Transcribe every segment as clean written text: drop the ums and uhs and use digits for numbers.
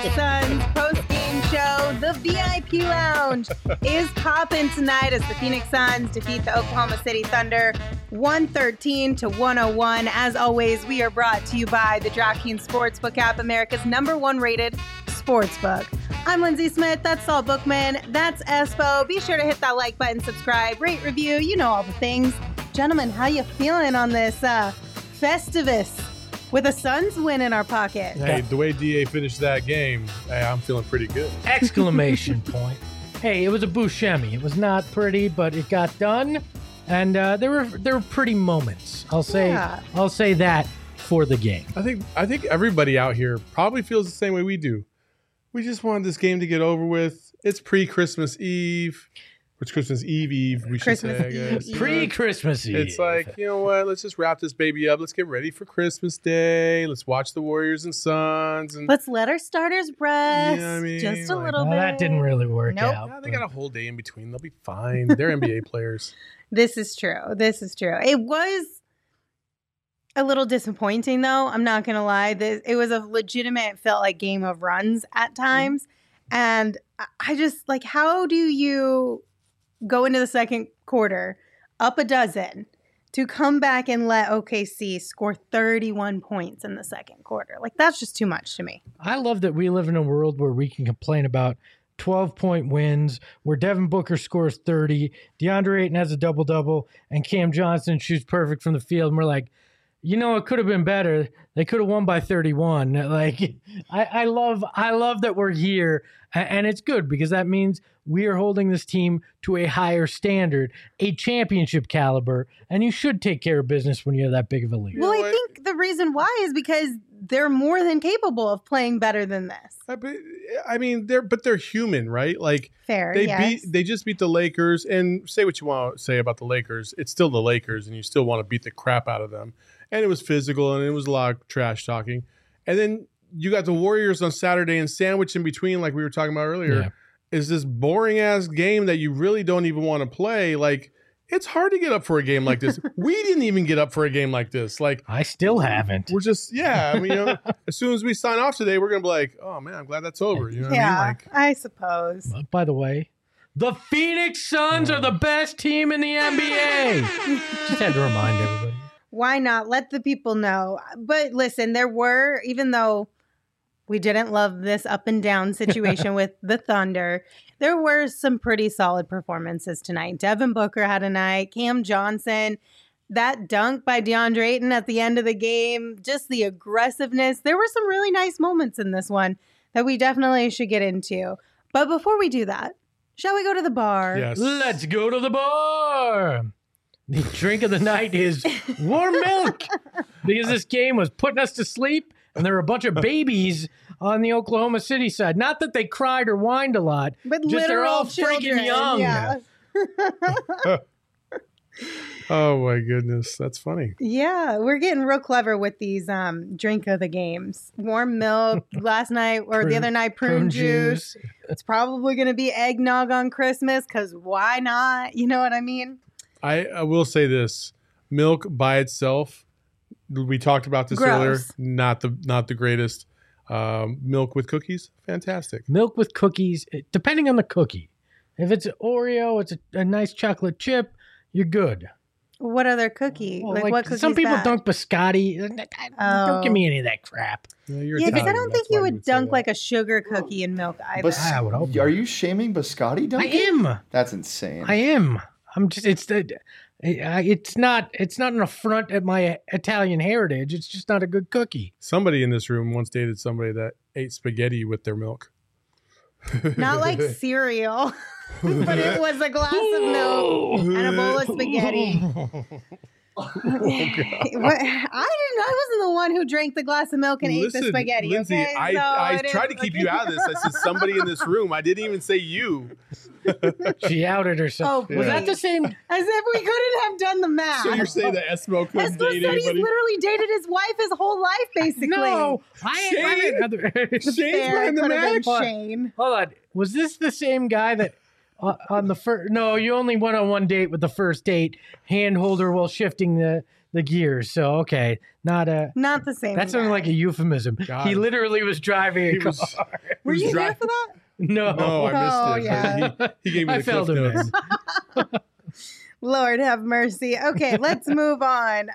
Suns post-game show. The VIP Lounge is popping tonight as the Phoenix Suns defeat the Oklahoma City Thunder 113-101. As always, we are brought to you by the DraftKings Sportsbook app, America's #1 rated sportsbook. I'm Lindsay Smith. That's Saul Bookman. That's Espo. Be sure to hit that like button, subscribe, rate, review. You know all the things. Gentlemen, how you feeling on this Festivus with a Suns win in our pocket? Hey, the way DA finished that game, I'm feeling pretty good. Exclamation point. Hey, it was a Buscemi. It was not pretty, but it got done. And there were pretty moments. I'll say that for the game. I think everybody out here probably feels the same way we do. We just wanted this game to get over with. It's pre-Christmas Eve. It's Christmas Eve, we should say, I guess. Pre-Christmas Eve. It's like, you know what? Let's just wrap this baby up. Let's get ready for Christmas Day. Let's watch the Warriors and Suns. And let's let our starters rest. You know what I mean? Just a little bit. That didn't really work out. Yeah, they got a whole day in between. They'll be fine. They're NBA players. This is true. It was a little disappointing, though. I'm not going to lie. It was a legitimate, felt like game of runs at times. And I just, like, how do you go into the second quarter up a dozen to come back and let OKC score 31 points in the second quarter? Like, that's just too much to me. I love that we live in a world where we can complain about 12-point wins, where Devin Booker scores 30, DeAndre Ayton has a double-double, and Cam Johnson shoots perfect from the field. And we're like, you know, it could have been better. They could have won by 31. Like, I love that we're here, and it's good because that means we are holding this team to a higher standard, a championship caliber, and you should take care of business when you have that big of a lead. Well, I think the reason why is because they're more than capable of playing better than this. I mean, they're human, right? Like, fair. They just beat the Lakers, and say what you want to say about the Lakers, it's still the Lakers, and you still want to beat the crap out of them. And it was physical, and it was a lot of trash talking. And then you got the Warriors on Saturday, and sandwiched in between, like we were talking about earlier, is this boring ass game that you really don't even want to play. Like, it's hard to get up for a game like this. We didn't even get up for a game like this. Like, I still haven't. We're just, I mean, you know, as soon as we sign off today, we're gonna be like, oh man, I'm glad that's over. You know what I mean? Like, I suppose. By the way, the Phoenix Suns are the best team in the NBA. Just had to remind everybody. Why not? Let the people know. But listen, there were, even though we didn't love this up and down situation with the Thunder, there were some pretty solid performances tonight. Devin Booker had a night. Cam Johnson, that dunk by DeAndre Ayton at the end of the game, just the aggressiveness. There were some really nice moments in this one that we definitely should get into. But before we do that, shall we go to the bar? Yes. Let's go to the bar. The drink of the night is warm milk because this game was putting us to sleep, and there were a bunch of babies on the Oklahoma City side. Not that they cried or whined a lot, but just they're all children, freaking young. Yeah. Oh my goodness, that's funny. Yeah, we're getting real clever with these drink of the games. Warm milk last night or the other night, prune juice. It's probably going to be eggnog on Christmas because why not? You know what I mean? I will say this: milk by itself, we talked about this earlier. Not the greatest. Milk with cookies, fantastic. Milk with cookies, depending on the cookie. If it's an Oreo, it's a nice chocolate chip, you're good. What other cookie? Well, like what cookie? Some people dunk biscotti. Don't give me any of that crap. Yeah, because I don't think you would dunk like a sugar cookie in milk either. I would hope Are you shaming biscotti dunking? I am. That's insane. I am. I'm just. It's not an affront at my Italian heritage. It's just not a good cookie. Somebody in this room once dated somebody that ate spaghetti with their milk. Not like cereal, but it was a glass of milk and a bowl of spaghetti. I wasn't the one who drank the glass of milk and ate the spaghetti. Lindsay, okay? I tried to keep you out of this. I said somebody in this room. I didn't even say you. She outed herself. Oh, was that the same? As if we couldn't have done the math. So you're saying that Esmo couldn't date said anybody? he's literally dated his wife his whole life, basically. No, Shane's behind the Fair, match. Shane. Hold on. Was this the same guy that on the first. No, you only went on one date with the first date hand holder while shifting the gears. So okay, not the same. That sounded like a euphemism. God. He literally was driving a car. Were you here for that? No, I missed it. yeah. He gave me I the felt cliff him notes. in. Lord have mercy. Okay, let's move on.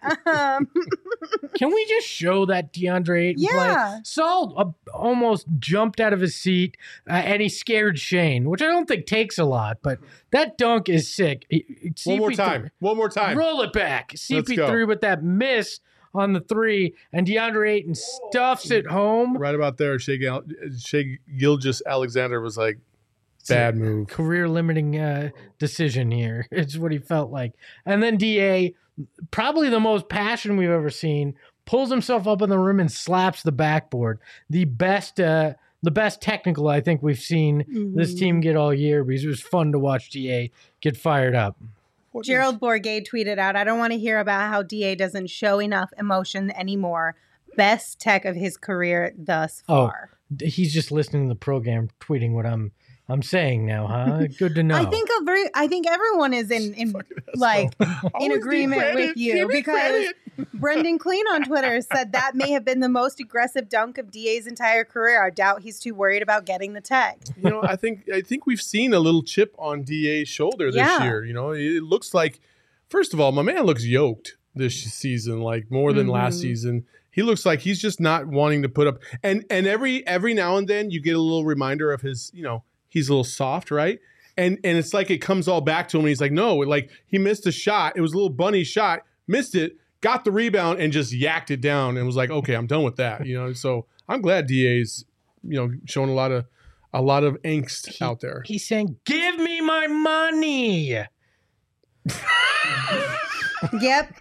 Can we just show that DeAndre Ayton Yeah. play? Saul almost jumped out of his seat, and he scared Shane, which I don't think takes a lot, but that dunk is sick. One more CP3 time. One more time. Roll it back. Let's CP3 go. with that miss on the 3, and DeAndre Ayton stuffs it home. Right about there, Shea Gilgeous-Alexander was like, bad move. Career limiting decision here. It's what he felt like. And then DA, probably the most passion we've ever seen, pulls himself up in the rim and slaps the backboard. The best technical I think we've seen this team get all year, because it was fun to watch DA get fired up. Gerald Bourget tweeted out, I don't want to hear about how DA doesn't show enough emotion anymore. Best tech of his career thus far. He's just listening to the program, tweeting what I'm saying now, huh? Good to know. I think everyone is in agreement with you, because Brendan Clean on Twitter said that may have been the most aggressive dunk of DA's entire career. I doubt he's too worried about getting the tag. I think we've seen a little chip on DA's shoulder this year. It looks like, first of all, my man looks yoked this season, like more than last season. He looks like he's just not wanting to put up. And every now and then you get a little reminder of his, he's a little soft, right? And it's like it comes all back to him. And he's like, no, like he missed a shot. It was a little bunny shot, missed it, got the rebound, and just yacked it down. And was like, okay, I'm done with that. So I'm glad DA's, showing a lot of angst out there. He's saying, "Give me my money." Yep.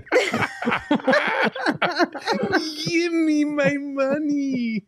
Give me my money.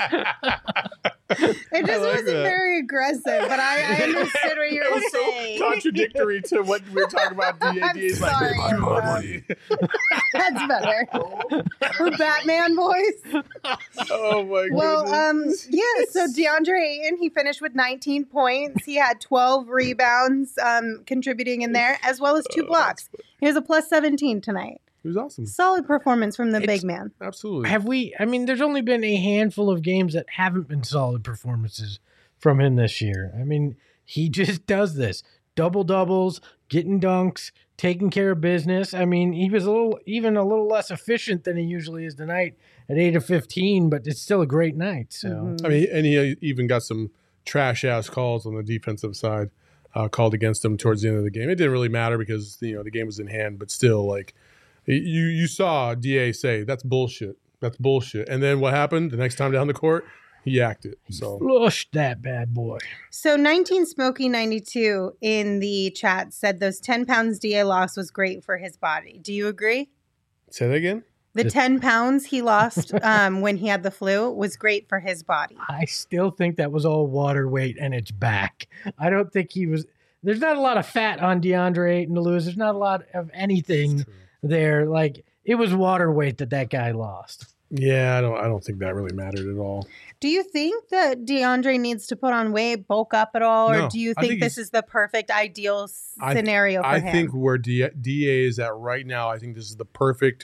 It just wasn't very aggressive, but I understood what you were saying. Contradictory to what we were talking about. DA's like, sorry, give me my money. That's better. Her Batman voice. Oh my goodness. Well, so DeAndre Ayton, he finished with 19 points. He had 12 rebounds contributing in there, as well as 2 blocks. He was a plus 17 tonight. It was awesome. Solid performance from the big man. Absolutely. There's only been a handful of games that haven't been solid performances from him this year. He just does this. Double doubles, getting dunks, taking care of business. He was a little less efficient than he usually is tonight at 8 of 15, but it's still a great night. So and he even got some trash ass calls on the defensive side called against him towards the end of the game. It didn't really matter because the game was in hand, but still, like you saw DA say that's bullshit. That's bullshit. And then what happened the next time down the court? He acted. So flushed that bad boy. So 19 Smokey 92 in the chat said those 10 pounds DA lost was great for his body. Do you agree? Say that again? The 10 pounds he lost when he had the flu was great for his body. I still think that was all water weight and it's back. I don't think he was. There's not a lot of fat on DeAndre Ayton to lose. There's not a lot of anything there. Like, it was water weight that guy lost. Yeah, I don't think that really mattered at all. Do you think that DeAndre needs to put on weight, bulk up at all? No, or do you think this is the perfect ideal scenario for him? I think where DA is at right now, I think this is the perfect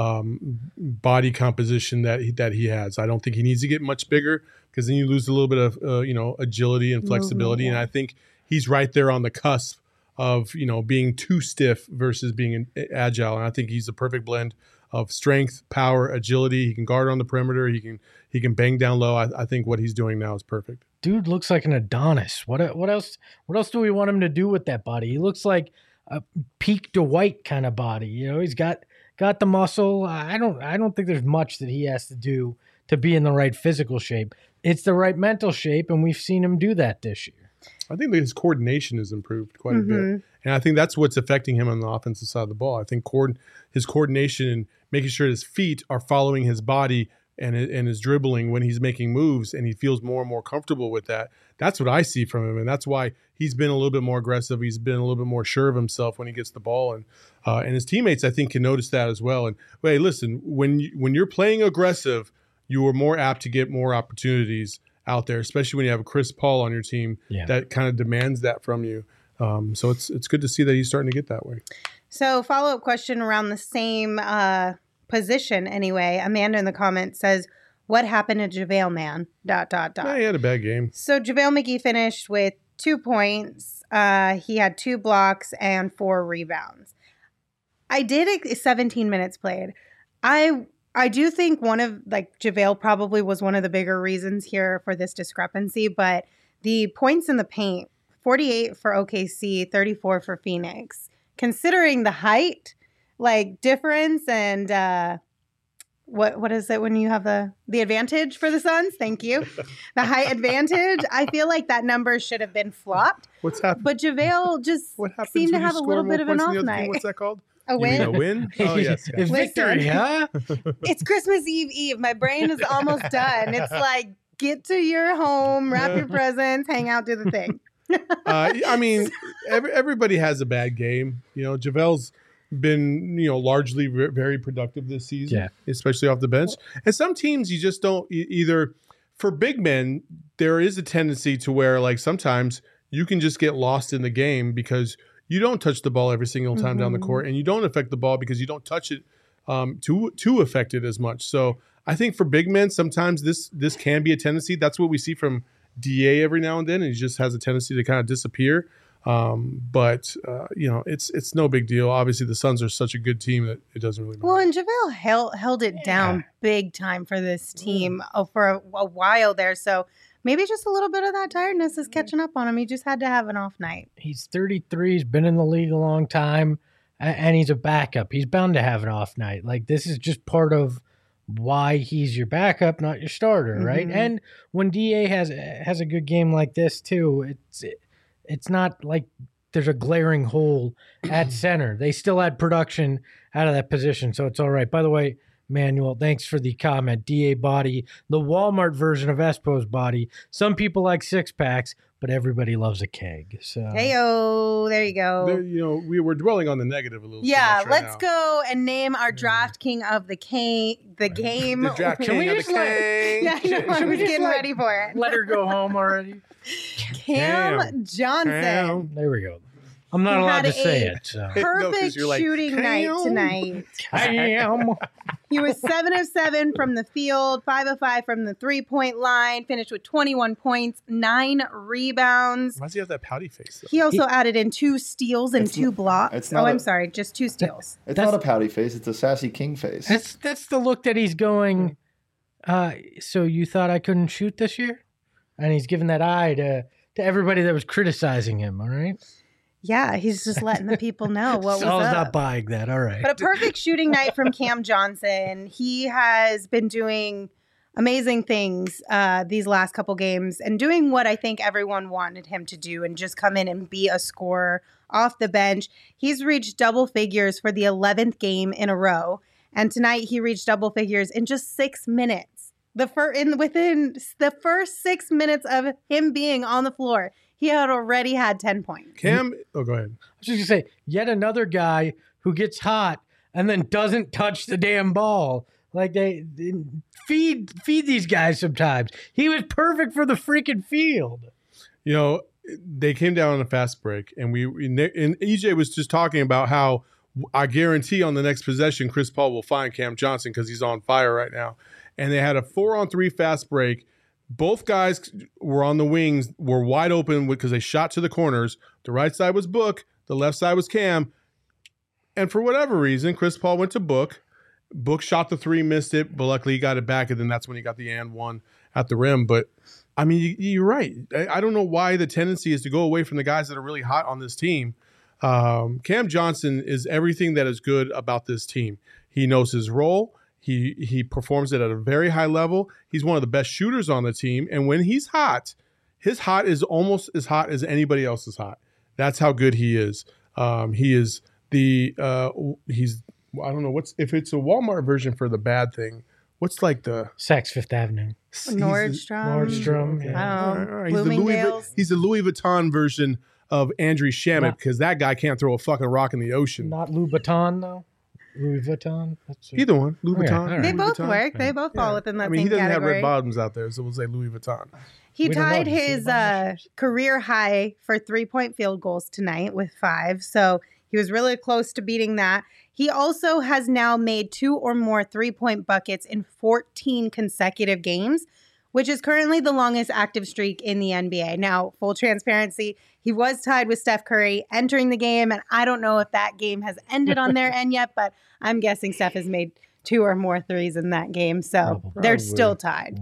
body composition that he has. I don't think he needs to get much bigger, because then you lose a little bit of agility and flexibility. And I think he's right there on the cusp of being too stiff versus being agile. And I think he's the perfect blend of strength, power, agility. He can guard on the perimeter. He can bang down low. I think what he's doing now is perfect. Dude looks like an Adonis. What else do we want him to do with that body? He looks like a peak Dwight kind of body. He's got the muscle. I don't think there's much that he has to do to be in the right physical shape. It's the right mental shape, and we've seen him do that this year. I think that his coordination has improved quite a bit. And I think that's what's affecting him on the offensive side of the ball. I think his coordination and making sure his feet are following his body and his dribbling when he's making moves, and he feels more and more comfortable with that. That's what I see from him, and that's why he's been a little bit more aggressive. He's been a little bit more sure of himself when he gets the ball, and his teammates, I think, can notice that as well. And hey, listen, when you're playing aggressive, you are more apt to get more opportunities out there, especially when you have a Chris Paul on your team that kind of demands that from you. So it's good to see that he's starting to get that way. So follow-up question around the same position anyway. Amanda in the comments says, what happened to JaVale, man? ... Yeah, he had a bad game. So JaVale McGee finished with 2 points. He had 2 blocks and 4 rebounds. I did 17 minutes played. I do think JaVale probably was one of the bigger reasons here for this discrepancy, but the points in the paint, 48 for OKC, 34 for Phoenix. Considering the height, difference and what is it when you have the advantage for the Suns? Thank you. The height advantage. I feel like that number should have been flopped. What's happened? But JaVale just seemed to have a little bit of an off night. What's that called? A win? A win? Oh, yes. It's victory, huh? It's Christmas Eve. My brain is almost done. It's like, get to your home, wrap your presents, hang out, do the thing. I mean, everybody has a bad game. JaVale's been, largely very productive this season, especially off the bench. And some teams you just don't either. For big men, there is a tendency to where sometimes you can just get lost in the game because you don't touch the ball every single time down the court, and you don't affect the ball because you don't touch it to affect it as much. So I think for big men, sometimes this can be a tendency. That's what we see from DA every now and then, and he just has a tendency to kind of disappear. But it's no big deal. Obviously, the Suns are such a good team that it doesn't really matter. Well, and JaVale held it down big time for this team for a while there. So maybe just a little bit of that tiredness is catching up on him. He just had to have an off night. He's 33. He's been in the league a long time, and he's a backup. He's bound to have an off night. This is just part of why he's your backup, not your starter, right? And when DA has a good game like this too, it's not like there's a glaring hole at center. They still had production out of that position, so it's all right. By the way, Manuel, thanks for the comment. DA body, the Walmart version of Espo's body. Some people like 6-packs, but everybody loves a keg. So Heyo, there you go. We were dwelling on the negative a little. Yeah, too much let's go and name our draft king of the game. The draft king of the king. Yeah, I was getting ready for it. Let her go home already. Cam Johnson. There we go. I'm not allowed to say it. So. Perfect shooting night tonight. Cam. He was 7 of 7 from the field, 5 of 5 from the 3-point line, finished with 21 points, 9 rebounds. Why does he have that pouty face, though? He also added in 2 steals and 2 blocks. I'm sorry, just 2 steals. It's not a pouty face. It's a sassy king face. That's the look that he's going, so you thought I couldn't shoot this year? And he's giving that eye to everybody that was criticizing him, all right? Yeah, he's just letting the people know what was Saul's up. not buying that. All right. But a perfect shooting night from Cam Johnson. He has been doing amazing things these last couple games and doing what I think everyone wanted him to do and just come in and be a scorer off the bench. He's reached double figures for the 11th game in a row. And tonight he reached double figures in just 6 minutes. Within the first 6 minutes of him being on the floor, he had already had 10 points. Cam, go ahead. I was just going to say, yet another guy who gets hot and then doesn't touch the damn ball. They feed these guys sometimes. He was perfect for the freaking field. They came down on a fast break, and EJ was just talking about how I guarantee on the next possession, Chris Paul will find Cam Johnson because he's on fire right now. And they had a 4-on-3 fast break. Both guys were on the wings, were wide open because they shot to the corners. The right side was Book. The left side was Cam. And for whatever reason, Chris Paul went to Book. Book shot the 3, missed it, but luckily he got it back, and then that's when he got the and one at the rim. But, I mean, you're right. I don't know why the tendency is to go away from the guys that are really hot on this team. Cam Johnson is everything that is good about this team. He knows his role. He performs it at a very high level. He's one of the best shooters on the team. And when he's hot, his hot is almost as hot as anybody else's hot. That's how good he is. He is I don't know if it's a Walmart version for the bad thing. What's the Saks Fifth Avenue? Nordstrom. Yeah. I don't know. Bloomingdale's. He's the Louis Vuitton version of Andrew Shamet because that guy can't throw a fucking rock in the ocean. Not Louboutin, though? Louis Vuitton. Either one. Louis Okay, Vuitton. all right. They Louis both Vuitton. work. They both fall within that I mean, he same doesn't have category. red bottoms out there, so we'll say Louis Vuitton. He We don't tied know. Do you see his the bottom of career high for 3-point field goals tonight with 5. So he was really close to beating that. He also has now made 2 or more 3-point buckets in 14 consecutive games, which is currently the longest active streak in the NBA. Now, full transparency, he was tied with Steph Curry entering the game, and I don't know if that game has ended on their end yet, but I'm guessing Steph has made 2 or more threes in that game, so Probably. they're still tied.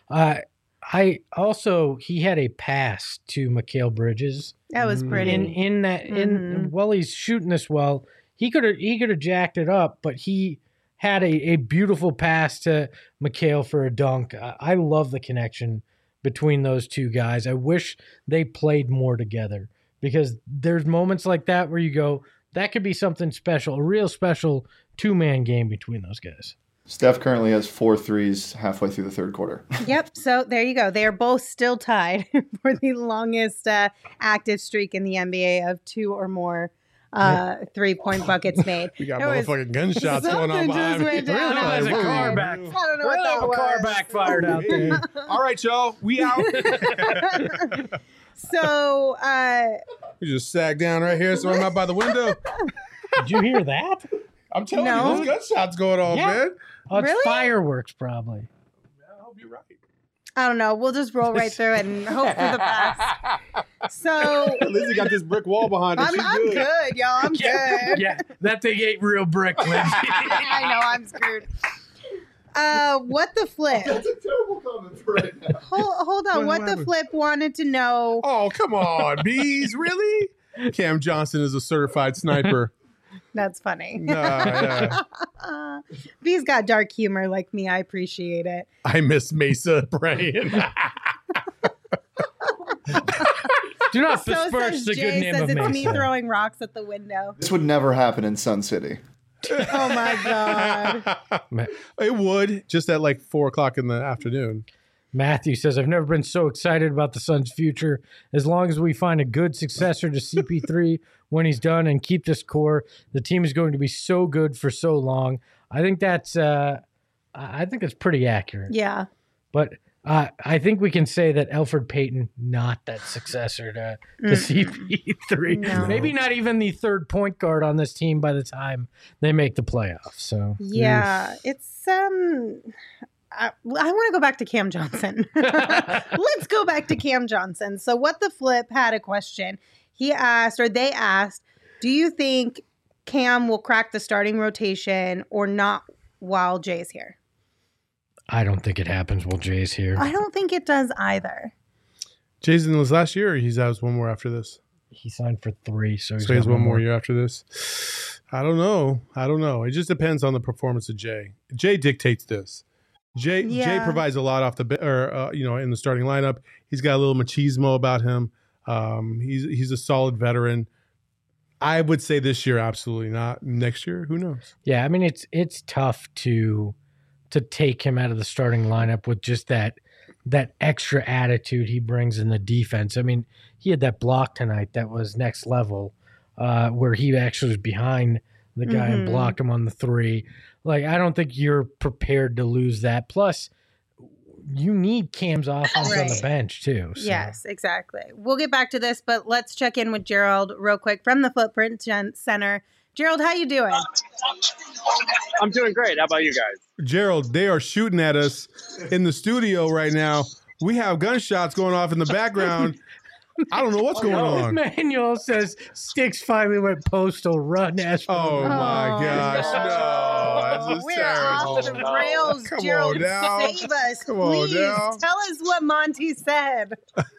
He had a pass to Mikal Bridges. That was pretty. While he's shooting this well, he could have jacked it up, but he had a beautiful pass to Mikal for a dunk. I love the connection between those two guys. I wish they played more together because there's moments like that where you go, that could be something special, a real special 2-man game between those guys. Steph currently has 4 threes halfway through the third quarter. Yep. So there you go. They are both still tied for the longest active streak in the NBA of 2 or more 3-point buckets made. We got There was- motherfucking gunshots going on Something behind just me. went down. Really has a Whoa. car back. I don't know what Really that have a was. car backfired out there. All right, y'all. We out. So We just sag down right here, so I'm not by the window. Did you hear that? I'm telling No. you, there's gunshots going on, Yeah. man. Oh, it's Really? fireworks, probably. I hope you're right. I don't know. We'll just roll right through it and hope for the best. So Lizzie got this brick wall behind her. I'm She's good, y'all. I'm good. Yeah, that thing ain't real brick, Lindsay. I know I'm screwed. What the flip? That's a terrible comment for right now. Hold on. What the happened? flip wanted to know. Oh, come on, bees, really? Cam Johnson is a certified sniper. That's funny. Yeah. B's got dark humor like me. I appreciate it. I miss Mesa praying. Do not So besmirch says the Jay, good name says of it's me Mesa. throwing rocks at the window. This would never happen in Sun City. Oh my god. It would, just at like 4:00 in the afternoon. Matthew says, I've never been so excited about the Suns' future. As long as we find a good successor to CP3 when he's done and keep this core, the team is going to be so good for so long. I think that's pretty accurate. Yeah. But I think we can say that Elfrid Payton, not that successor to CP3. No. Maybe not even the third point guard on this team by the time they make the playoffs. So Yeah. It's I want to go back to Cam Johnson. Let's go back to Cam Johnson. So What the Flip had a question. They asked, do you think Cam will crack the starting rotation or not while Jay's here? I don't think it happens while Jay's here. I don't think it does either. Jason was last year, or he has one more after this? He signed for 3, so So he has got one more year after this. I don't know. It just depends on the performance of Jay. Jay dictates this. Jay provides a lot off the in the starting lineup. He's got a little machismo about him. He's a solid veteran. I would say this year, absolutely not. Next year, who knows? Yeah, I mean it's tough to take him out of the starting lineup with just that extra attitude he brings in the defense. I mean, he had that block tonight that was next level, where he actually was behind the guy and blocked him on the 3. Like, I don't think you're prepared to lose that. Plus, you need Cam's offense on the Right. bench too. So. Yes, exactly. We'll get back to this, but let's check in with Gerald real quick from the Footprint Center. Gerald, how you doing? I'm doing great. How about you guys? Gerald, they are shooting at us in the studio right now. We have gunshots going off in the background. I don't know what's going on. Manuel says Sticks finally went postal. Run, Asheville. Oh my Oh, gosh, no. This is We're terrible. off the rails, Come on Gerald. now. Save us, Come on please. now. Tell us what Monty said.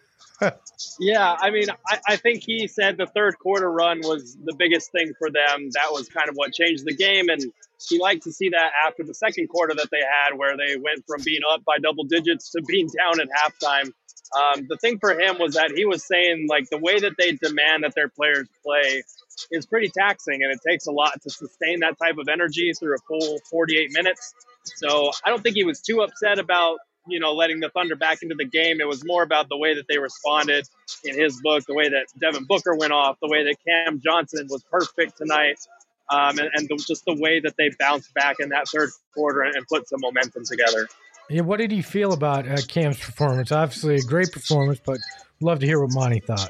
Yeah, I mean, I think he said the third quarter run was the biggest thing for them. That was kind of what changed the game. And he liked to see that after the second quarter that they had, where they went from being up by double digits to being down at halftime. The thing for him was that he was saying, like, the way that they demand that their players play is pretty taxing, and it takes a lot to sustain that type of energy through a full 48 minutes. So I don't think he was too upset about, letting the Thunder back into the game. It was more about the way that they responded in his book, the way that Devin Booker went off, the way that Cam Johnson was perfect tonight. Just the way that they bounced back in that third quarter and put some momentum together. Yeah, what did you feel about Cam's performance? Obviously, a great performance, but love to hear what Monty thought.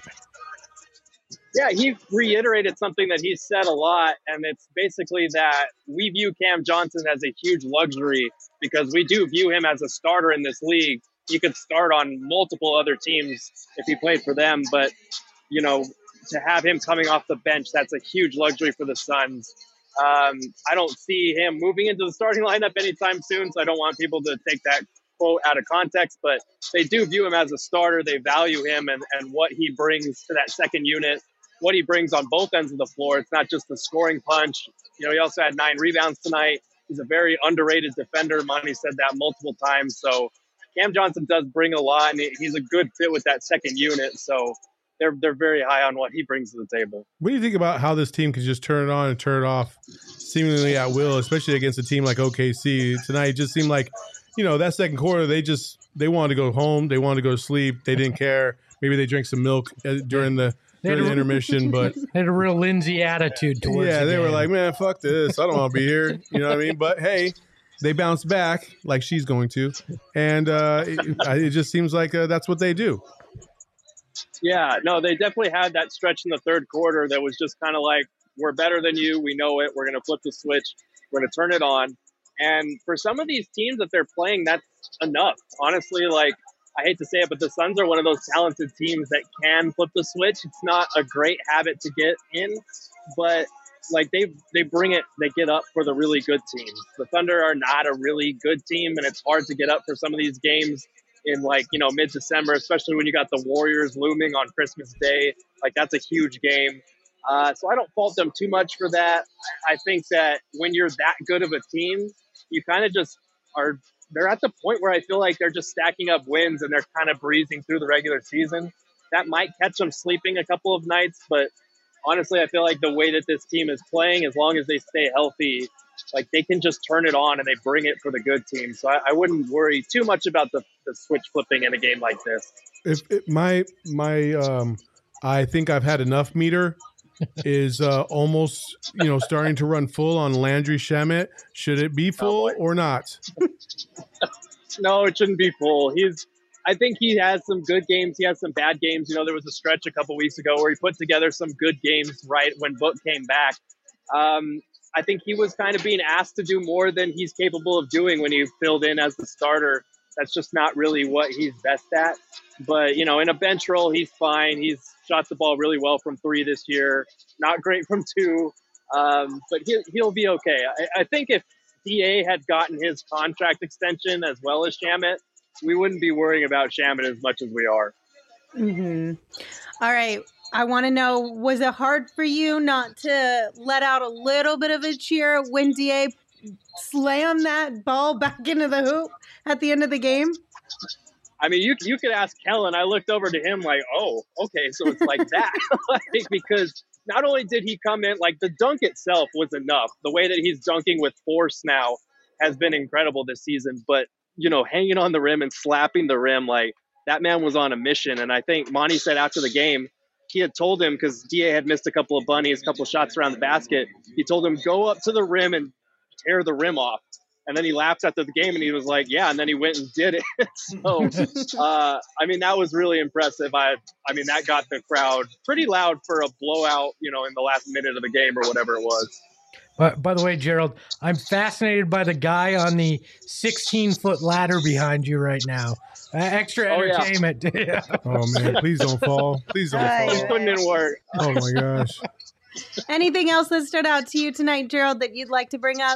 Yeah, he reiterated something that he's said a lot, and it's basically that we view Cam Johnson as a huge luxury because we do view him as a starter in this league. He could start on multiple other teams if he played for them, but, you know, to have him coming off the bench, that's a huge luxury for the Suns. I don't see him moving into the starting lineup anytime soon, so I don't want people to take that quote out of context, but they do view him as a starter. They value him and what he brings to that second unit, what he brings on both ends of the floor. It's not just the scoring punch. You know, he also had 9 rebounds tonight. He's a very underrated defender. Monty said that multiple times. So Cam Johnson does bring a lot, and he's a good fit with that second unit. So they're very high on what he brings to the table. What do you think about how this team can just turn it on and turn it off seemingly at will, especially against a team like OKC? Tonight it just seemed like, you know, that second quarter, they wanted to go home. They wanted to go to sleep. They didn't care. Maybe they drank some milk during the intermission, but they had a real Lindsay attitude towards yeah, they game. were like, man, fuck this. I don't want to be here. You know what I mean? But hey, they bounced back like she's going to. And it just seems like that's what they do. Yeah, no, they definitely had that stretch in the third quarter that was just kind of like, we're better than you. We know it. We're going to flip the switch. We're going to turn it on. And for some of these teams that they're playing, that's enough. Honestly, like, I hate to say it, but the Suns are one of those talented teams that can flip the switch. It's not a great habit to get in, but like they bring it, they get up for the really good teams. The Thunder are not a really good team, and it's hard to get up for some of these games in, like, you know, mid-December, especially when you got the Warriors looming on Christmas Day. Like, that's a huge game. So I don't fault them too much for that. I think that when you're that good of a team, you kind of just are – they're at the point where I feel like they're just stacking up wins and they're kind of breezing through the regular season. That might catch them sleeping a couple of nights, but honestly, I feel like the way that this team is playing, as long as they stay healthy, like, they can just turn it on and they bring it for the good team. So I wouldn't worry too much about the switch flipping in a game like this. I think I've had enough meter is almost, you know, starting to run full on Landry Shamet. Should it be full or not? No, it shouldn't be full. I think he has some good games. He has some bad games. You know, there was a stretch a couple weeks ago where he put together some good games right when Book came back. I think he was kind of being asked to do more than he's capable of doing when he filled in as the starter. That's just not really what he's best at. But, you know, in a bench role, he's fine. He's shot the ball really well from 3 this year. Not great from 2, but he'll be okay. I think if DA had gotten his contract extension as well as Shamet, we wouldn't be worrying about Shamet as much as we are. Mm-hmm. All right. I want to know, was it hard for you not to let out a little bit of a cheer when DA slammed that ball back into the hoop at the end of the game? I mean, you could ask Kellen. I looked over to him like, oh, okay, so it's like that. Like, because not only did he come in, like, the dunk itself was enough. The way that he's dunking with force now has been incredible this season. But, you know, hanging on the rim and slapping the rim, like, that man was on a mission. And I think Monty said after the game, he had told him, because DA had missed a couple of bunnies, a couple of shots around the basket, he told him, go up to the rim and tear the rim off. And then he laughed after the game and he was like, yeah, and then he went and did it. So, I mean, that was really impressive. I mean, that got the crowd pretty loud for a blowout, you know, in the last minute of the game or whatever it was. By the way, Gerald, I'm fascinated by the guy on the 16-foot ladder behind you right now. Extra entertainment. Yeah. Oh, man, please don't fall. Please don't fall. It couldn't work. Oh, my gosh. Anything else that stood out to you tonight, Gerald, that you'd like to bring up?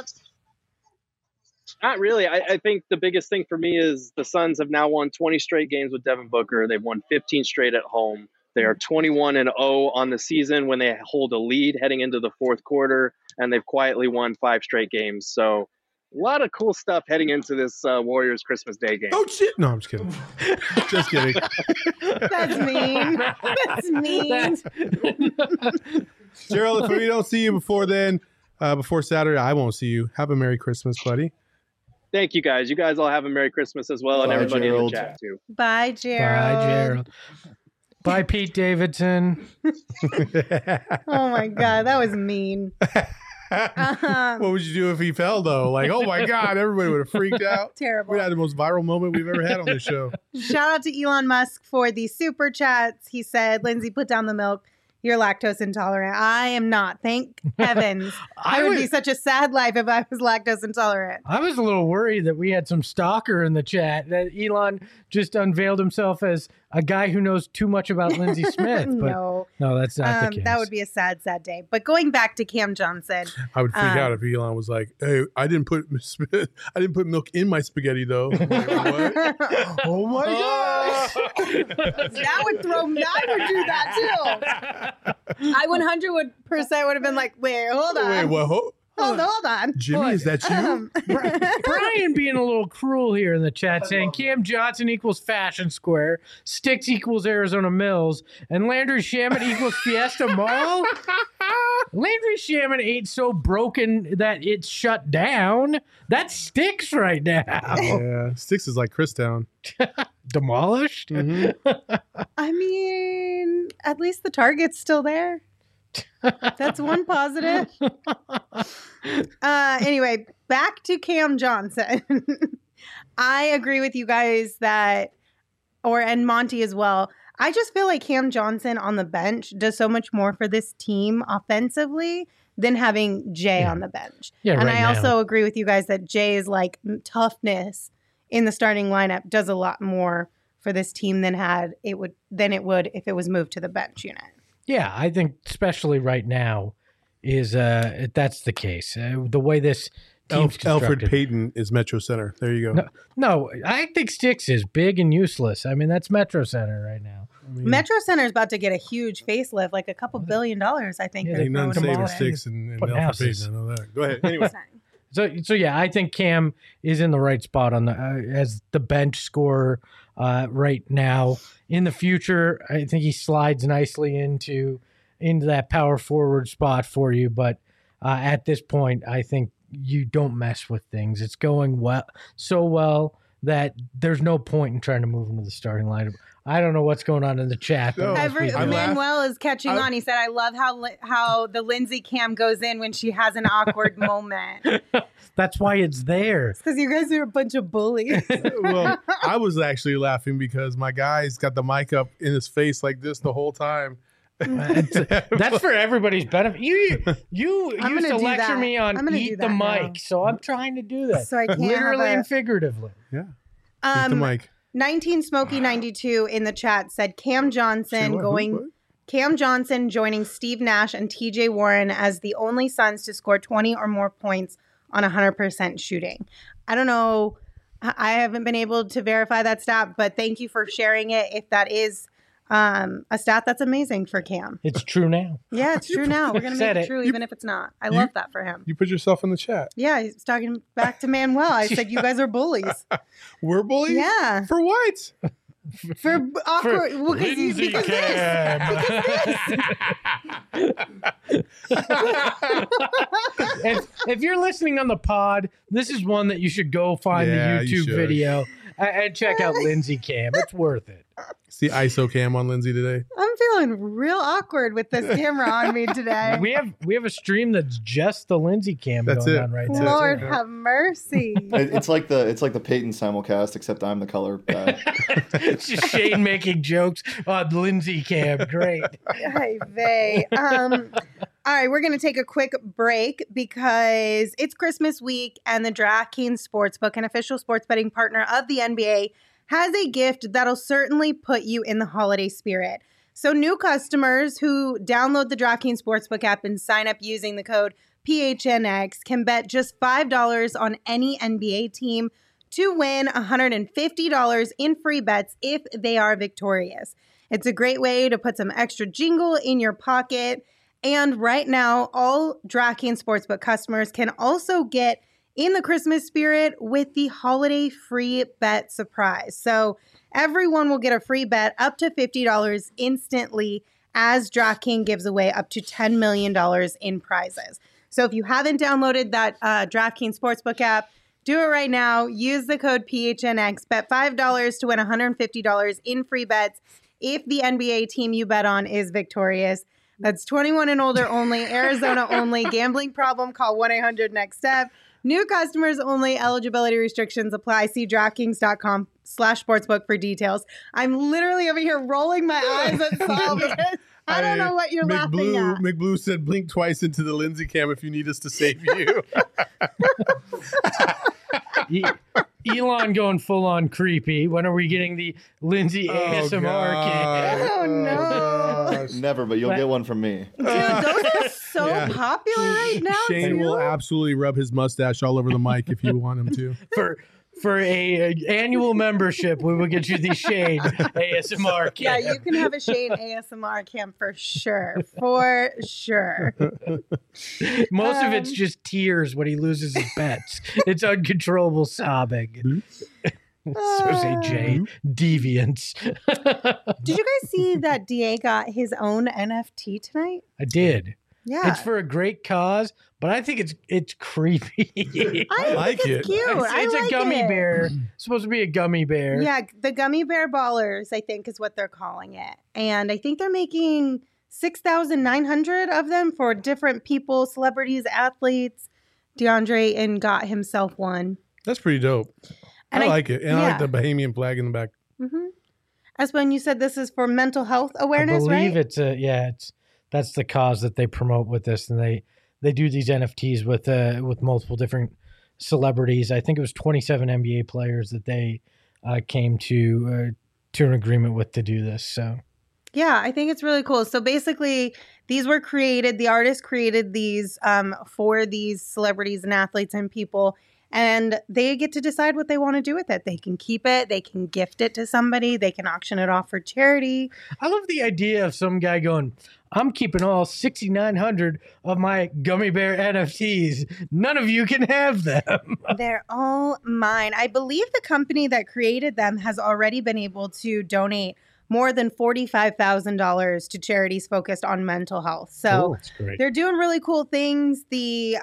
Not really. I think the biggest thing for me is the Suns have now won 20 straight games with Devin Booker. They've won 15 straight at home. They are 21-0 on the season when they hold a lead heading into the fourth quarter, and they've quietly won 5 straight games. So a lot of cool stuff heading into this Warriors Christmas Day game. Oh, shit. No, I'm just kidding. Just kidding. That's mean. That's mean. Gerald, if we don't see you before then, before Saturday, I won't see you. Have a Merry Christmas, buddy. Thank you, guys. You guys all have a Merry Christmas as well, and everybody Gerald. in the chat, too. Bye, Gerald. Bye, Gerald. Bye, Pete Davidson. Oh, my God. That was mean. What would you do if he fell though? Like, oh my God, everybody would have freaked out. Terrible. We had the most viral moment we've ever had on this show. Shout out to Elon Musk for the super chats. He said, Lindsay, put down the milk. You're lactose intolerant. I am not. Thank heavens. I would be such a sad life if I was lactose intolerant. I was a little worried that we had some stalker in the chat, that Elon just unveiled himself as a guy who knows too much about Lindsey Smith. But no, that's not the case. That would be a sad, sad day. But going back to Cam Johnson. I would freak out if Elon was like, hey, I didn't put milk in my spaghetti though. Like, what? Oh my gosh. That would throw me. I would do that too. I 100% would have been like, wait, hold on. Wait, what? Hold on. Jimmy, is that you? Brian being a little cruel here in the chat, saying Cam Johnson equals Fashion Square, Sticks equals Arizona Mills, and Landry Shaman equals Fiesta Mall. Landry Shaman ain't so broken that it's shut down. That's Sticks right now. Yeah, Sticks is like Christown. Demolished? Mm-hmm. I mean, at least the Target's still there. That's one positive. Anyway, back to Cam Johnson. I agree with you guys and Monty as well. I just feel like Cam Johnson on the bench does so much more for this team offensively than having Jay on the bench. Yeah, and right I now. also agree with you guys that Jay's like toughness in the starting lineup does a lot more for this team than it would if it was moved to the bench unit. Yeah, I think especially right now is that's the case. The way this team's Alfred constructed. Payton is Metro Center. There you go. No, I think Sticks is big and useless. I mean, that's Metro Center right now. Metro Center is about to get a huge facelift, like a couple $1 billion, I think. Yeah, they're Ain't none throwing saving away. Sticks and Putting Alfred houses. Payton. I know that. Go ahead. Anyway. So yeah, I think Cam is in the right spot on the as the bench scorer right now. In the future, I think he slides nicely into that power forward spot for you. But at this point, I think you don't mess with things. It's going so well that there's no point in trying to move him to the starting lineup. I don't know what's going on in the chat. but No. must be- Manuel is catching on. He said, I love how the Lindsay Cam goes in when she has an awkward moment. That's why it's there. Because you guys are a bunch of bullies. Well, I was actually laughing because my guy's got the mic up in his face like this the whole time. That's for everybody's benefit. You I'm used gonna to do lecture that. me on I'm gonna do eat the that mic, now. so I'm trying to do that. So I can't literally have and figuratively. Yeah. Eat the mic. 19 Smokey 92 in the chat said Cam Johnson What? Cam Johnson joining Steve Nash and TJ Warren as the only Suns to score 20 or more points on 100% shooting. I don't know. I haven't been able to verify that stat, but thank you for sharing it. If that is a stat, that's amazing for Cam. It's true now. Yeah, it's true now. We're going to Said make it it. true even if it's not. I love that for him. You put yourself in the chat. Yeah, he's talking back to Manuel. I said, you guys are bullies. We're bullies? Yeah. For what? For awkward. Well, Lindsay because And if you're listening on the pod, this is one that you should go find Yeah, the you YouTube should. video and check out Lindsay Cam. It's worth it. It's the ISO cam on Lindsay today. I'm feeling real awkward with this camera on me today. We have a stream that's just the Lindsay Cam That's going it. on right That's now. it. Lord have mercy. It's like the Peyton simulcast, except I'm the color guy. It's just Shane making jokes on Lindsay Cam. Great. Hi, vey. All right, we're going to take a quick break because it's Christmas week and the DraftKings Sportsbook, an official sports betting partner of the NBA, has a gift that'll certainly put you in the holiday spirit. So new customers who download the DraftKings Sportsbook app and sign up using the code PHNX can bet just $5 on any NBA team to win $150 in free bets if they are victorious. It's a great way to put some extra jingle in your pocket. And right now, all DraftKings Sportsbook customers can also get in the Christmas spirit with the holiday free bet surprise. So everyone will get a free bet up to $50 instantly as DraftKings gives away up to $10 million in prizes. So if you haven't downloaded that DraftKings Sportsbook app, do it right now. Use the code PHNX. Bet $5 to win $150 in free bets if the NBA team you bet on is victorious. That's 21 and older only, Arizona only. Gambling problem, call 1-800-NEXT-STEP. New customers only. Eligibility restrictions apply. See DraftKings.com/sportsbook for details. I'm literally over here rolling my eyes at Saul because I don't know what you're laughing at. McBlue said, blink twice into the Lindsay cam if you need us to save you. Elon going full on creepy. When are we getting the Lindsay ASMR kit? Oh, no. Never, but you'll get one from me. Dude, those are so popular right now, Shane too. will absolutely rub his mustache all over the mic if you want him to. For a annual membership, we will get you the Shane ASMR kit. Yeah, you can have a Shane ASMR cam for sure. For sure. Most of it's just tears when he loses his bets. It's uncontrollable sobbing. So say Jay, deviants. Did you guys see that DA got his own NFT tonight? I did. Yeah. It's for a great cause, but I think it's creepy. I like think it. it's cute. It's I like a gummy it. bear. It's supposed to be a gummy bear. Yeah, the Gummy Bear Ballers, I think, is what they're calling it. And I think they're making 6,900 of them for different people, celebrities, athletes. DeAndre Ayton got himself one. That's pretty dope. And I like it. And I yeah. like the Bahamian flag in the back. Mm-hmm. As when you said this is for mental health awareness, I believe right? that's the cause that they promote with this, and they do these NFTs with multiple different celebrities. I think it was 27 NBA players that they came to an agreement with to do this. So Yeah, I think it's really cool. So basically, these were created, the artist created these for these celebrities and athletes and people, and they get to decide what they want to do with it. They can keep it, they can gift it to somebody, they can auction it off for charity. I love the idea of some guy going, I'm keeping all 6,900 of my gummy bear NFTs. None of you can have them. They're all mine. I believe the company that created them has already been able to donate more than $45,000 to charities focused on mental health. So that's great. they're doing really cool things. The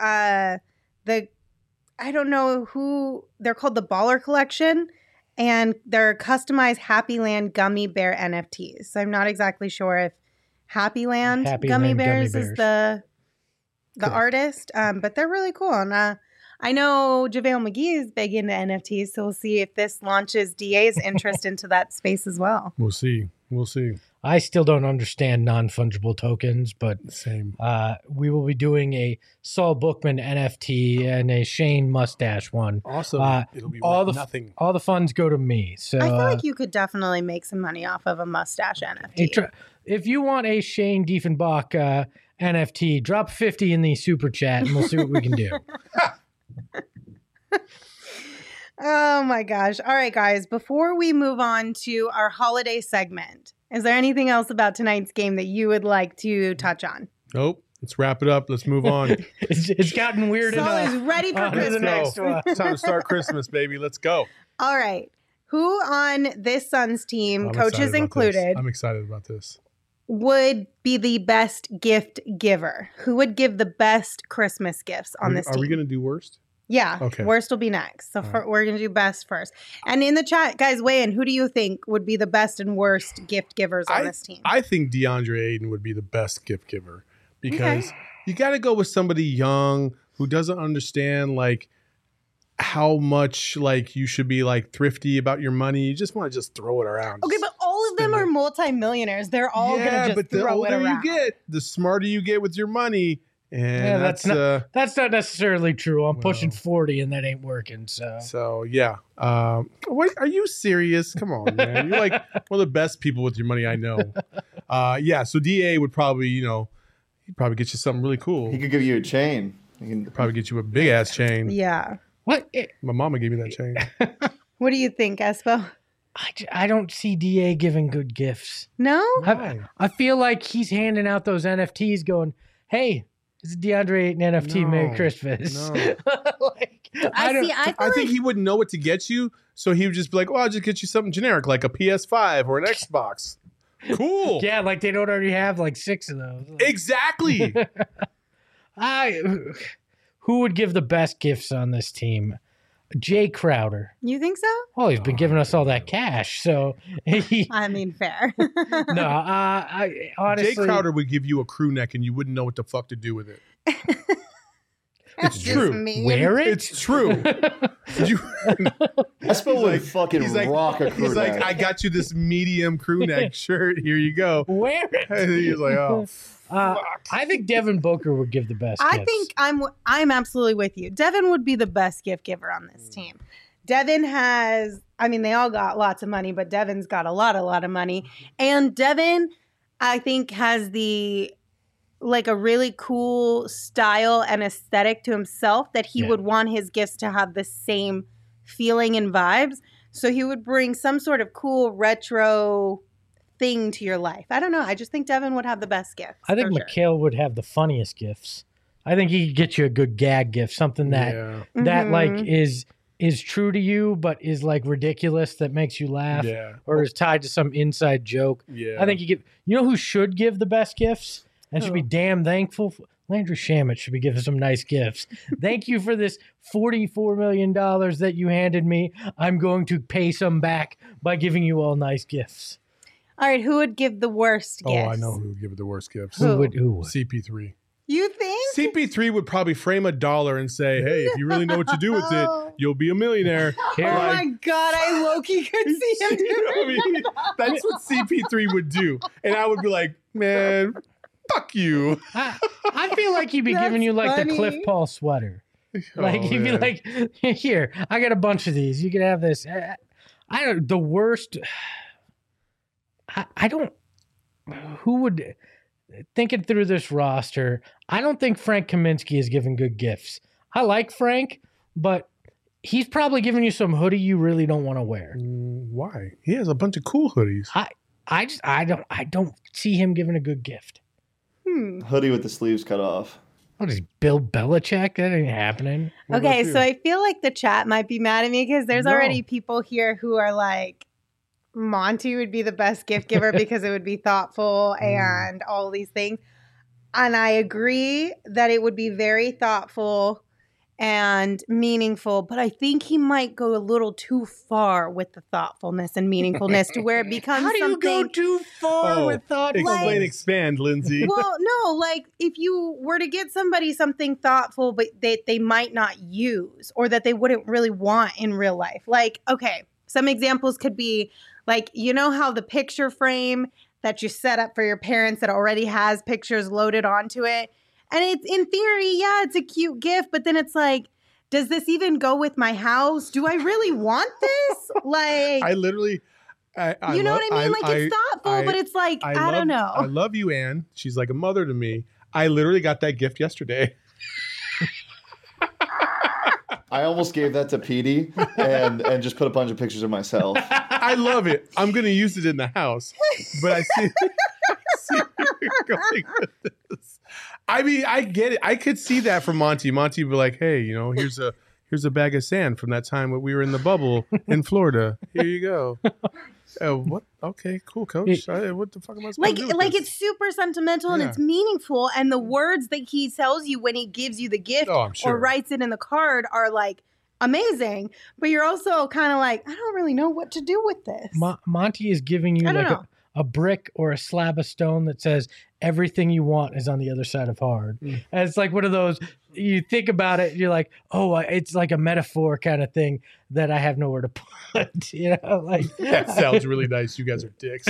I don't know who they're called, the Baller Collection, and they're customized Happy Land gummy bear NFTs. So I'm not exactly sure if Happy Land Gummy Bears is the artist, but they're really cool. And I know JaVale McGee is big into NFTs, so we'll see if this launches DA's interest into that space as well. We'll see. I still don't understand non-fungible tokens, but Same. we will be doing a Saul Bookman NFT and a Shane Mustache one. Awesome. It'll be all worth the nothing. All the funds go to me. So I feel like you could definitely make some money off of a mustache NFT. if you want a Shane Diefenbach NFT, drop 50 in the super chat and we'll see what we can do. Oh my gosh. All right, guys, before we move on to our holiday segment, is there anything else about tonight's game that you would like to touch on? Nope. Let's wrap it up. Let's move on. It's gotten weird Saul enough. is ready for Christmas. Next one. It's time to start Christmas, baby. Let's go. All right. Who on this Suns team, I'm coaches excited about this. included, I'm excited about this. would be the best gift giver? Who would give the best Christmas gifts on this team? Are we going to do worst? Yeah. Okay. Worst will be next. So we're going to do best first. And in the chat, guys, weigh in. Who do you think would be the best and worst gift givers on this team? I think DeAndre Ayton would be the best gift giver because you got to go with somebody young who doesn't understand like how much like you should be like thrifty about your money. You just want to just throw it around. Okay, but all of them are multimillionaires. They're all going to just the throw it older around. you get, the smarter you get with your money. And that's not necessarily true. I'm pushing 40 and that ain't working. So yeah. What are you serious? Come on, man. You're like one of the best people with your money I know. So DA would probably, he'd probably get you something really cool. He could give you a chain. He can Probably get you a big ass chain. Yeah. What? My mama gave me that chain. What do you think, Espo? I don't see DA giving good gifts. No? I feel like he's handing out those NFTs going, hey, this is DeAndre Ayton NFT. No, Merry Christmas. no. I think he wouldn't know what to get you, so he would just be like, "Well, I'll just get you something generic, like a PS5 or an Xbox." Cool. Yeah, like they don't already have like 6 of those. Exactly. Who would give the best gifts on this team? Jay Crowder. You think so? Oh, he's been giving us all that cash, so he, I mean, fair. no. I honestly, Jay Crowder would give you a crew neck and you wouldn't know what the fuck to do with it. That's It's just true. mean. wear it. It's true. You, Espo would like- fucking he's like- rock a crew he's like, neck. I got you this medium crew neck shirt. Here you go. Wear it. And he's like, oh, I think Devin Booker would give the best. I gifts. think I'm absolutely with you. Devin would be the best gift giver on this team. Devin has, I mean, they all got lots of money, but Devin's got a lot of money. And Devin, I think, has like a really cool style and aesthetic to himself that he Yeah. would want his gifts to have the same feeling and vibes. So he would bring some sort of cool retro thing to your life. I don't know. I just think Devin would have the best gifts. I think for sure. Mikhail would have the funniest gifts. I think he could get you a good gag gift, something that yeah. that like Mhm. is true to you, but is like ridiculous that makes you laugh, Yeah. or is tied to some inside joke. Yeah. I think you know who should give the best gifts and should be Who? damn thankful. Landry Shamet should be giving some nice gifts. Thank you for this $44 million that you handed me. I'm going to pay some back by giving you all nice gifts. All right, who would give the worst Oh, gifts? I know who would give it the worst gifts. Who? Who would? CP3. You think? CP3 would probably frame $1 and say, hey, if you really know what to do with it, you'll be a millionaire. Here, Oh Like- my God, I low-key could see him You know what I doing mean? That's what CP3 would do. And I would be like, man, fuck you. I feel like he'd be That's giving you like the Cliff funny. Paul sweater. Like Oh, he'd be man. like, "Here, I got a bunch of these. You can have this." I don't. The worst. I don't. Who would thinking through this roster? I don't think Frank Kaminsky is giving good gifts. I like Frank, but he's probably giving you some hoodie you really don't want to wear. Why? He has a bunch of cool hoodies. I don't see him giving a good gift. Hoodie with the sleeves cut off. What is Bill Belichick? That ain't happening. What about Okay, you? so I feel like the chat might be mad at me because there's No. already people here who are like, Monty would be the best gift giver because it would be thoughtful and all these things. And I agree that it would be very thoughtful and meaningful, but I think he might go a little too far with the thoughtfulness and meaningfulness to where it becomes How do you something. go too far Oh, with thought? Explain, expand, Lindsay. Well, no, like if you were to get somebody something thoughtful, but they might not use or that they wouldn't really want in real life. Like, okay, some examples could be like, you know how the picture frame that you set up for your parents that already has pictures loaded onto it? And it's in theory, yeah, it's a cute gift, but then it's like, does this even go with my house? Do I really want this? Like, I literally, you know what I mean? Like it's thoughtful, but it's like, I don't know. I love you, Anne. She's like a mother to me. I literally got that gift yesterday. I almost gave that to Petey and just put a bunch of pictures of myself. I love it. I'm going to use it in the house. But I see where you're going with this. I mean, I get it. I could see that from Monty. Monty would be like, hey, you know, here's a bag of sand from that time when we were in the bubble in Florida. Here you go. What? Okay, cool, coach. What the fuck am I supposed to do with Like this? it's super sentimental and Yeah. it's meaningful, and the words that he tells you when he gives you the gift Oh, I'm sure. or writes it in the card are like amazing. But you're also kind of like, I don't really know what to do with this. Monty is giving you I don't like know. a brick or a slab of stone that says everything you want is on the other side of hard. And it's like one of those, you think about it, you're like, oh, it's like a metaphor kind of thing that I have nowhere to put. You know, like That sounds really nice. You guys are dicks.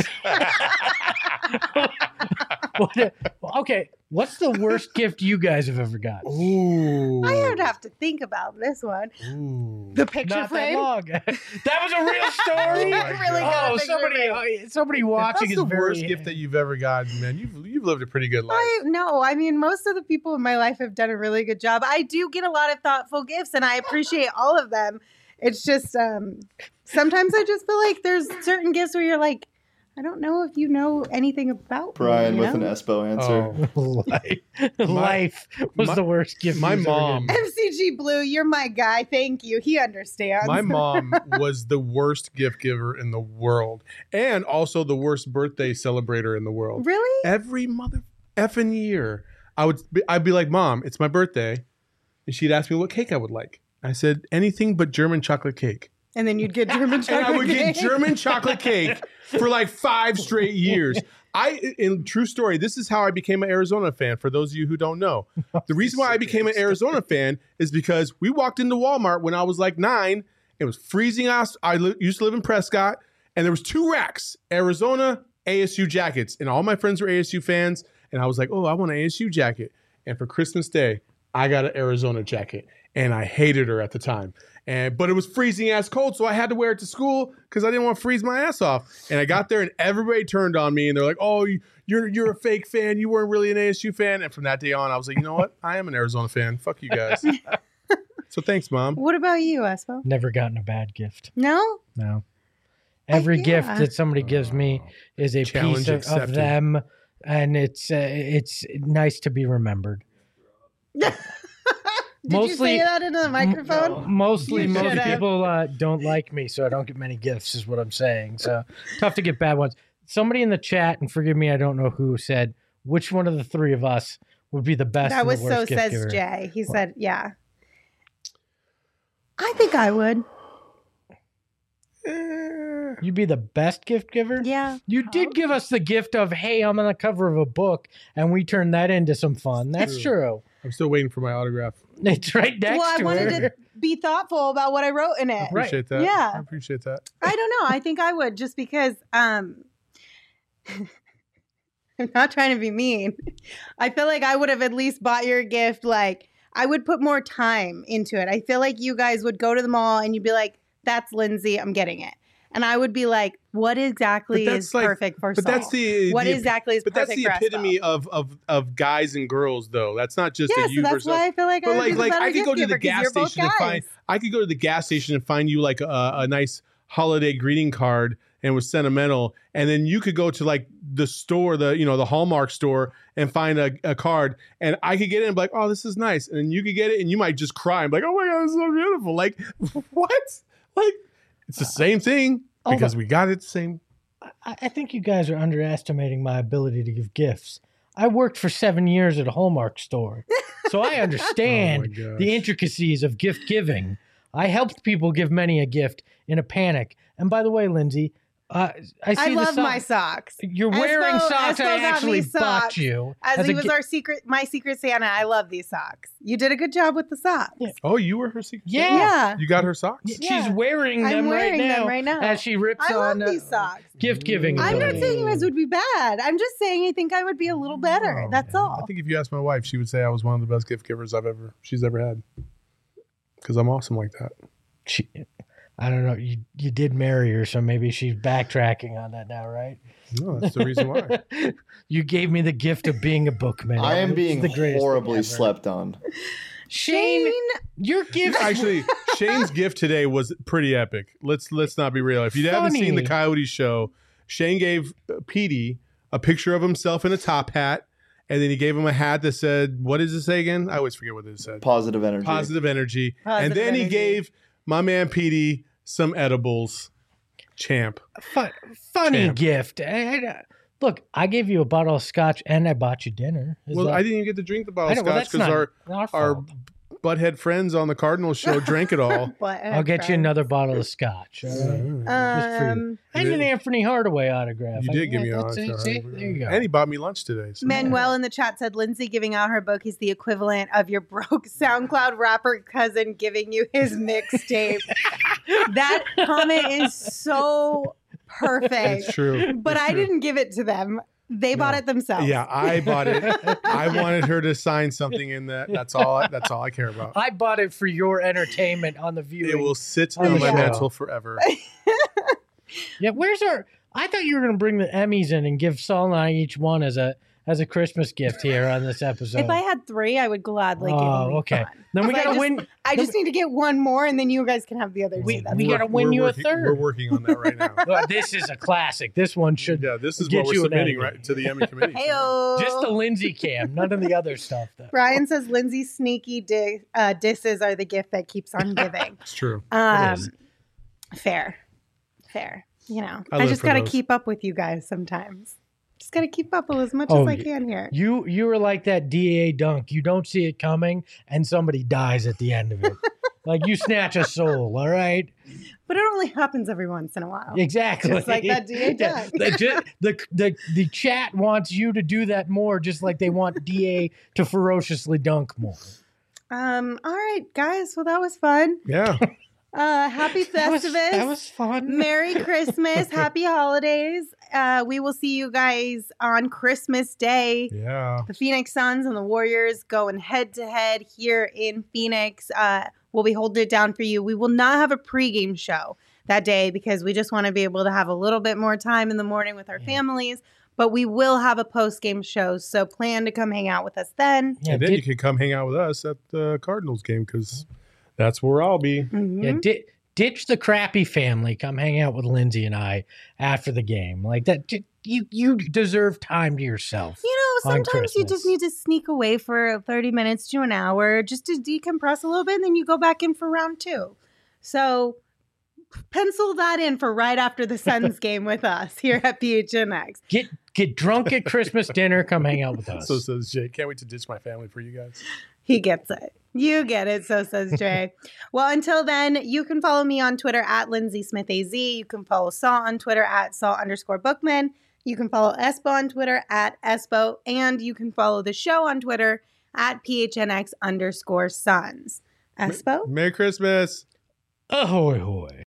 Okay, what's the worst gift you guys have ever got? Ooh. I would have to think about this one. Ooh. The picture Not that frame. long. That was a real story. Oh my Really God. got a Oh, picture somebody watching That's is the very worst gift that you've ever gotten, man. You've lived a pretty good life. I mean, most of the people in my life have done a really good job. I do get a lot of thoughtful gifts, and I appreciate all of them. It's just sometimes I just feel like there's certain gifts where you're like, I don't know if you know anything about Brian me, you with an know? Espo answer. Oh. Life was my- the worst gift. my he's ever mom- given. MCG Blue, you're my guy. Thank you. He understands. My mom was the worst gift giver in the world, and also the worst birthday celebrator in the world. Really? Every mother effing year, I'd be like, "Mom, it's my birthday," and she'd ask me what cake I would like. I said, anything but German chocolate cake. And then you'd get German chocolate And I would cake. get German chocolate cake for like 5 straight years. In true story, this is how I became an Arizona fan. For those of you who don't know, the reason why I became an Arizona fan is because we walked into Walmart when I was like 9. It was freezing us. I used to live in Prescott, and there was 2 racks, Arizona ASU jackets, and all my friends were ASU fans. And I was like, oh, I want an ASU jacket. And for Christmas Day, I got an Arizona jacket, and I hated her at the time. But it was freezing ass cold, so I had to wear it to school because I didn't want to freeze my ass off. And I got there, and everybody turned on me, and they're like, "Oh, you're a fake fan. You weren't really an ASU fan." And from that day on, I was like, you know what? I am an Arizona fan. Fuck you guys. So thanks, Mom. What about you, Espo? Never gotten a bad gift. No? No. Every Yeah. gift that somebody gives me is a Challenge piece of accepted. them, and it's nice to be remembered. Did you Mostly- say that into the microphone? Mostly, You most should have. people don't like me, so I don't get many gifts, is what I'm saying. So tough to get bad ones. Somebody in the chat, and forgive me, I don't know who, said, which one of the 3 of us would be the best That and was the worst so gift says giver? Jay. He said, yeah. I think I would. You'd be the best gift giver? Yeah. You did give us the gift of, hey, I'm on the cover of a book, and we turned that into some fun. That's true. I'm still waiting for my autograph. It's right next Well, I to wanted her. to be thoughtful about what I wrote in it. Right. Appreciate that. Yeah. I appreciate that. I don't know. I think I would just because I'm not trying to be mean. I feel like I would have at least bought your gift. Like, I would put more time into it. I feel like you guys would go to the mall and you'd be like, that's Lindsay, I'm getting it. And I would be like, what exactly But that's is like- perfect for But Saul? that's the What the- exactly is But perfect that's the for Espo? epitome of guys and girls, though. That's not just Yeah, a so you that's versus. why I feel like I But would be the like better I could gift go to giver the 'cause gas you're both station and find. guys. I could go to the gas station and find you like a nice holiday greeting card and was sentimental, and then you could go to like the store, the Hallmark store, and find a card, and I could get it and be like, oh, this is nice, and then you could get it and you might just cry and be like, oh my god, this is so beautiful. Like what? Like it's the same thing because we got it the same. I think you guys are underestimating my ability to give gifts. I worked for 7 years at a Hallmark store, so I understand Oh my gosh. the intricacies of gift giving. I helped people give many a gift in a panic. And by the way, Lindsay, I see I the love sock- my socks. You're wearing Espo- socks Espo I got me actually bought socks. you. As he a was gi- my secret Santa, I love these socks. You did a good job with the socks. Yeah. Oh, you were her secret. Yeah. Yeah. You got her socks. Yeah. She's wearing I'm them, wearing right, them now right now. as she rips I love on these socks. gift giving. I'm not ability. saying you guys would be bad. I'm just saying I think I would be a little better. Oh, That's I all. think if you asked my wife, she would say I was one of the best gift givers she's ever had. Because I'm awesome like that. I don't know. You did marry her, so maybe she's backtracking on that now, right? No, that's the reason why. You gave me the gift of being a bookman. I am It's being the greatest thing horribly ever. slept on. Shane, your gift. Actually, Shane's gift today was pretty epic. Let's not be real. If you haven't seen the Funny. Coyote Show, Shane gave Petey a picture of himself in a top hat, and then he gave him a hat that said, "What does it say again?" I always forget what it said. Positive energy. Positive energy. Positive and then he energy. gave my man Petey some edibles. Champ. Funny Champ. gift. Look, I gave you a bottle of scotch and I bought you dinner. Is Well, that- I didn't even get to drink the bottle I of know, well, scotch that's because not our fault. butthead friends on the Cardinals show drank it all. But I'll get you another bottle of scotch. All right? Just for you. And an Anthony Hardaway autograph. You did give me that. a See, there you go. And he bought me lunch today. So. Manuel in the chat said Lindsay giving out her book is the equivalent of your broke SoundCloud rapper cousin giving you his mixtape. That comment is so perfect. It's true. But It's I true. didn't give it to them. They bought it themselves. Yeah, I bought it. I wanted her to sign something in that. That's all I care about. I bought it for your entertainment on the viewing. It will sit on on the my show. mantle forever. Yeah, where's our? I thought you were going to bring the Emmys in and give Saul and I each one as a Christmas gift here on this episode. If I had 3, I would gladly give Oh, them okay. one. Then we If I got to just- win. I just need to get one more, and then you guys can have the other two. We That's gotta fine. win you a working, third. We're working on that right now. Well, this is a classic. This one should Yeah, this is Get what we're you an submitting Emmy. right to the Emmy committee. Heyo. just the Lindsay cam, none of the other stuff. Though. Brian says Lindsay's sneaky disses are the gift that keeps on giving. It's true. is. Fair. You know, I I live just for got to those. keep up with you guys sometimes. Just got to keep up as much Oh, as I can here. You were like that DA dunk. You don't see it coming, and somebody dies at the end of it. Like you snatch a soul, all right? But it only happens every once in a while. Exactly. Just like that DA dunk. The chat wants you to do that more, just like they want DA to ferociously dunk more. All right, guys. Well, that was fun. Yeah. Happy Festivus. That was fun. Merry Christmas. Happy holidays. We will see you guys on Christmas Day. Yeah. The Phoenix Suns and the Warriors going head to head here in Phoenix. We'll be holding it down for you. We will not have a pregame show that day because we just want to be able to have a little bit more time in the morning with our families. But we will have a post-game show, so plan to come hang out with us then. Yeah, And then you can come hang out with us at the Cardinals game because that's where I'll be. Mhm. yeah, ditch the crappy family. Come hang out with Lindsay and I after the game. Like that, you deserve time to yourself. You know, on sometimes you just Christmas. need to sneak away for 30 minutes to an hour just to decompress a little bit, and then you go back in for round 2. So pencil that in for right after the Suns game with us here at PHNX. Get drunk at Christmas dinner. Come hang out with us. So says Jay. Can't wait to ditch my family for you guys. He gets it. You get it, so says Jay. Well, until then, you can follow me on Twitter at Lindsay Smith AZ. You can follow Saul on Twitter at Saul_Bookman. You can follow Espo on Twitter at Espo. And you can follow the show on Twitter at PHNX_Suns. Espo? Merry Christmas. Ahoy hoy.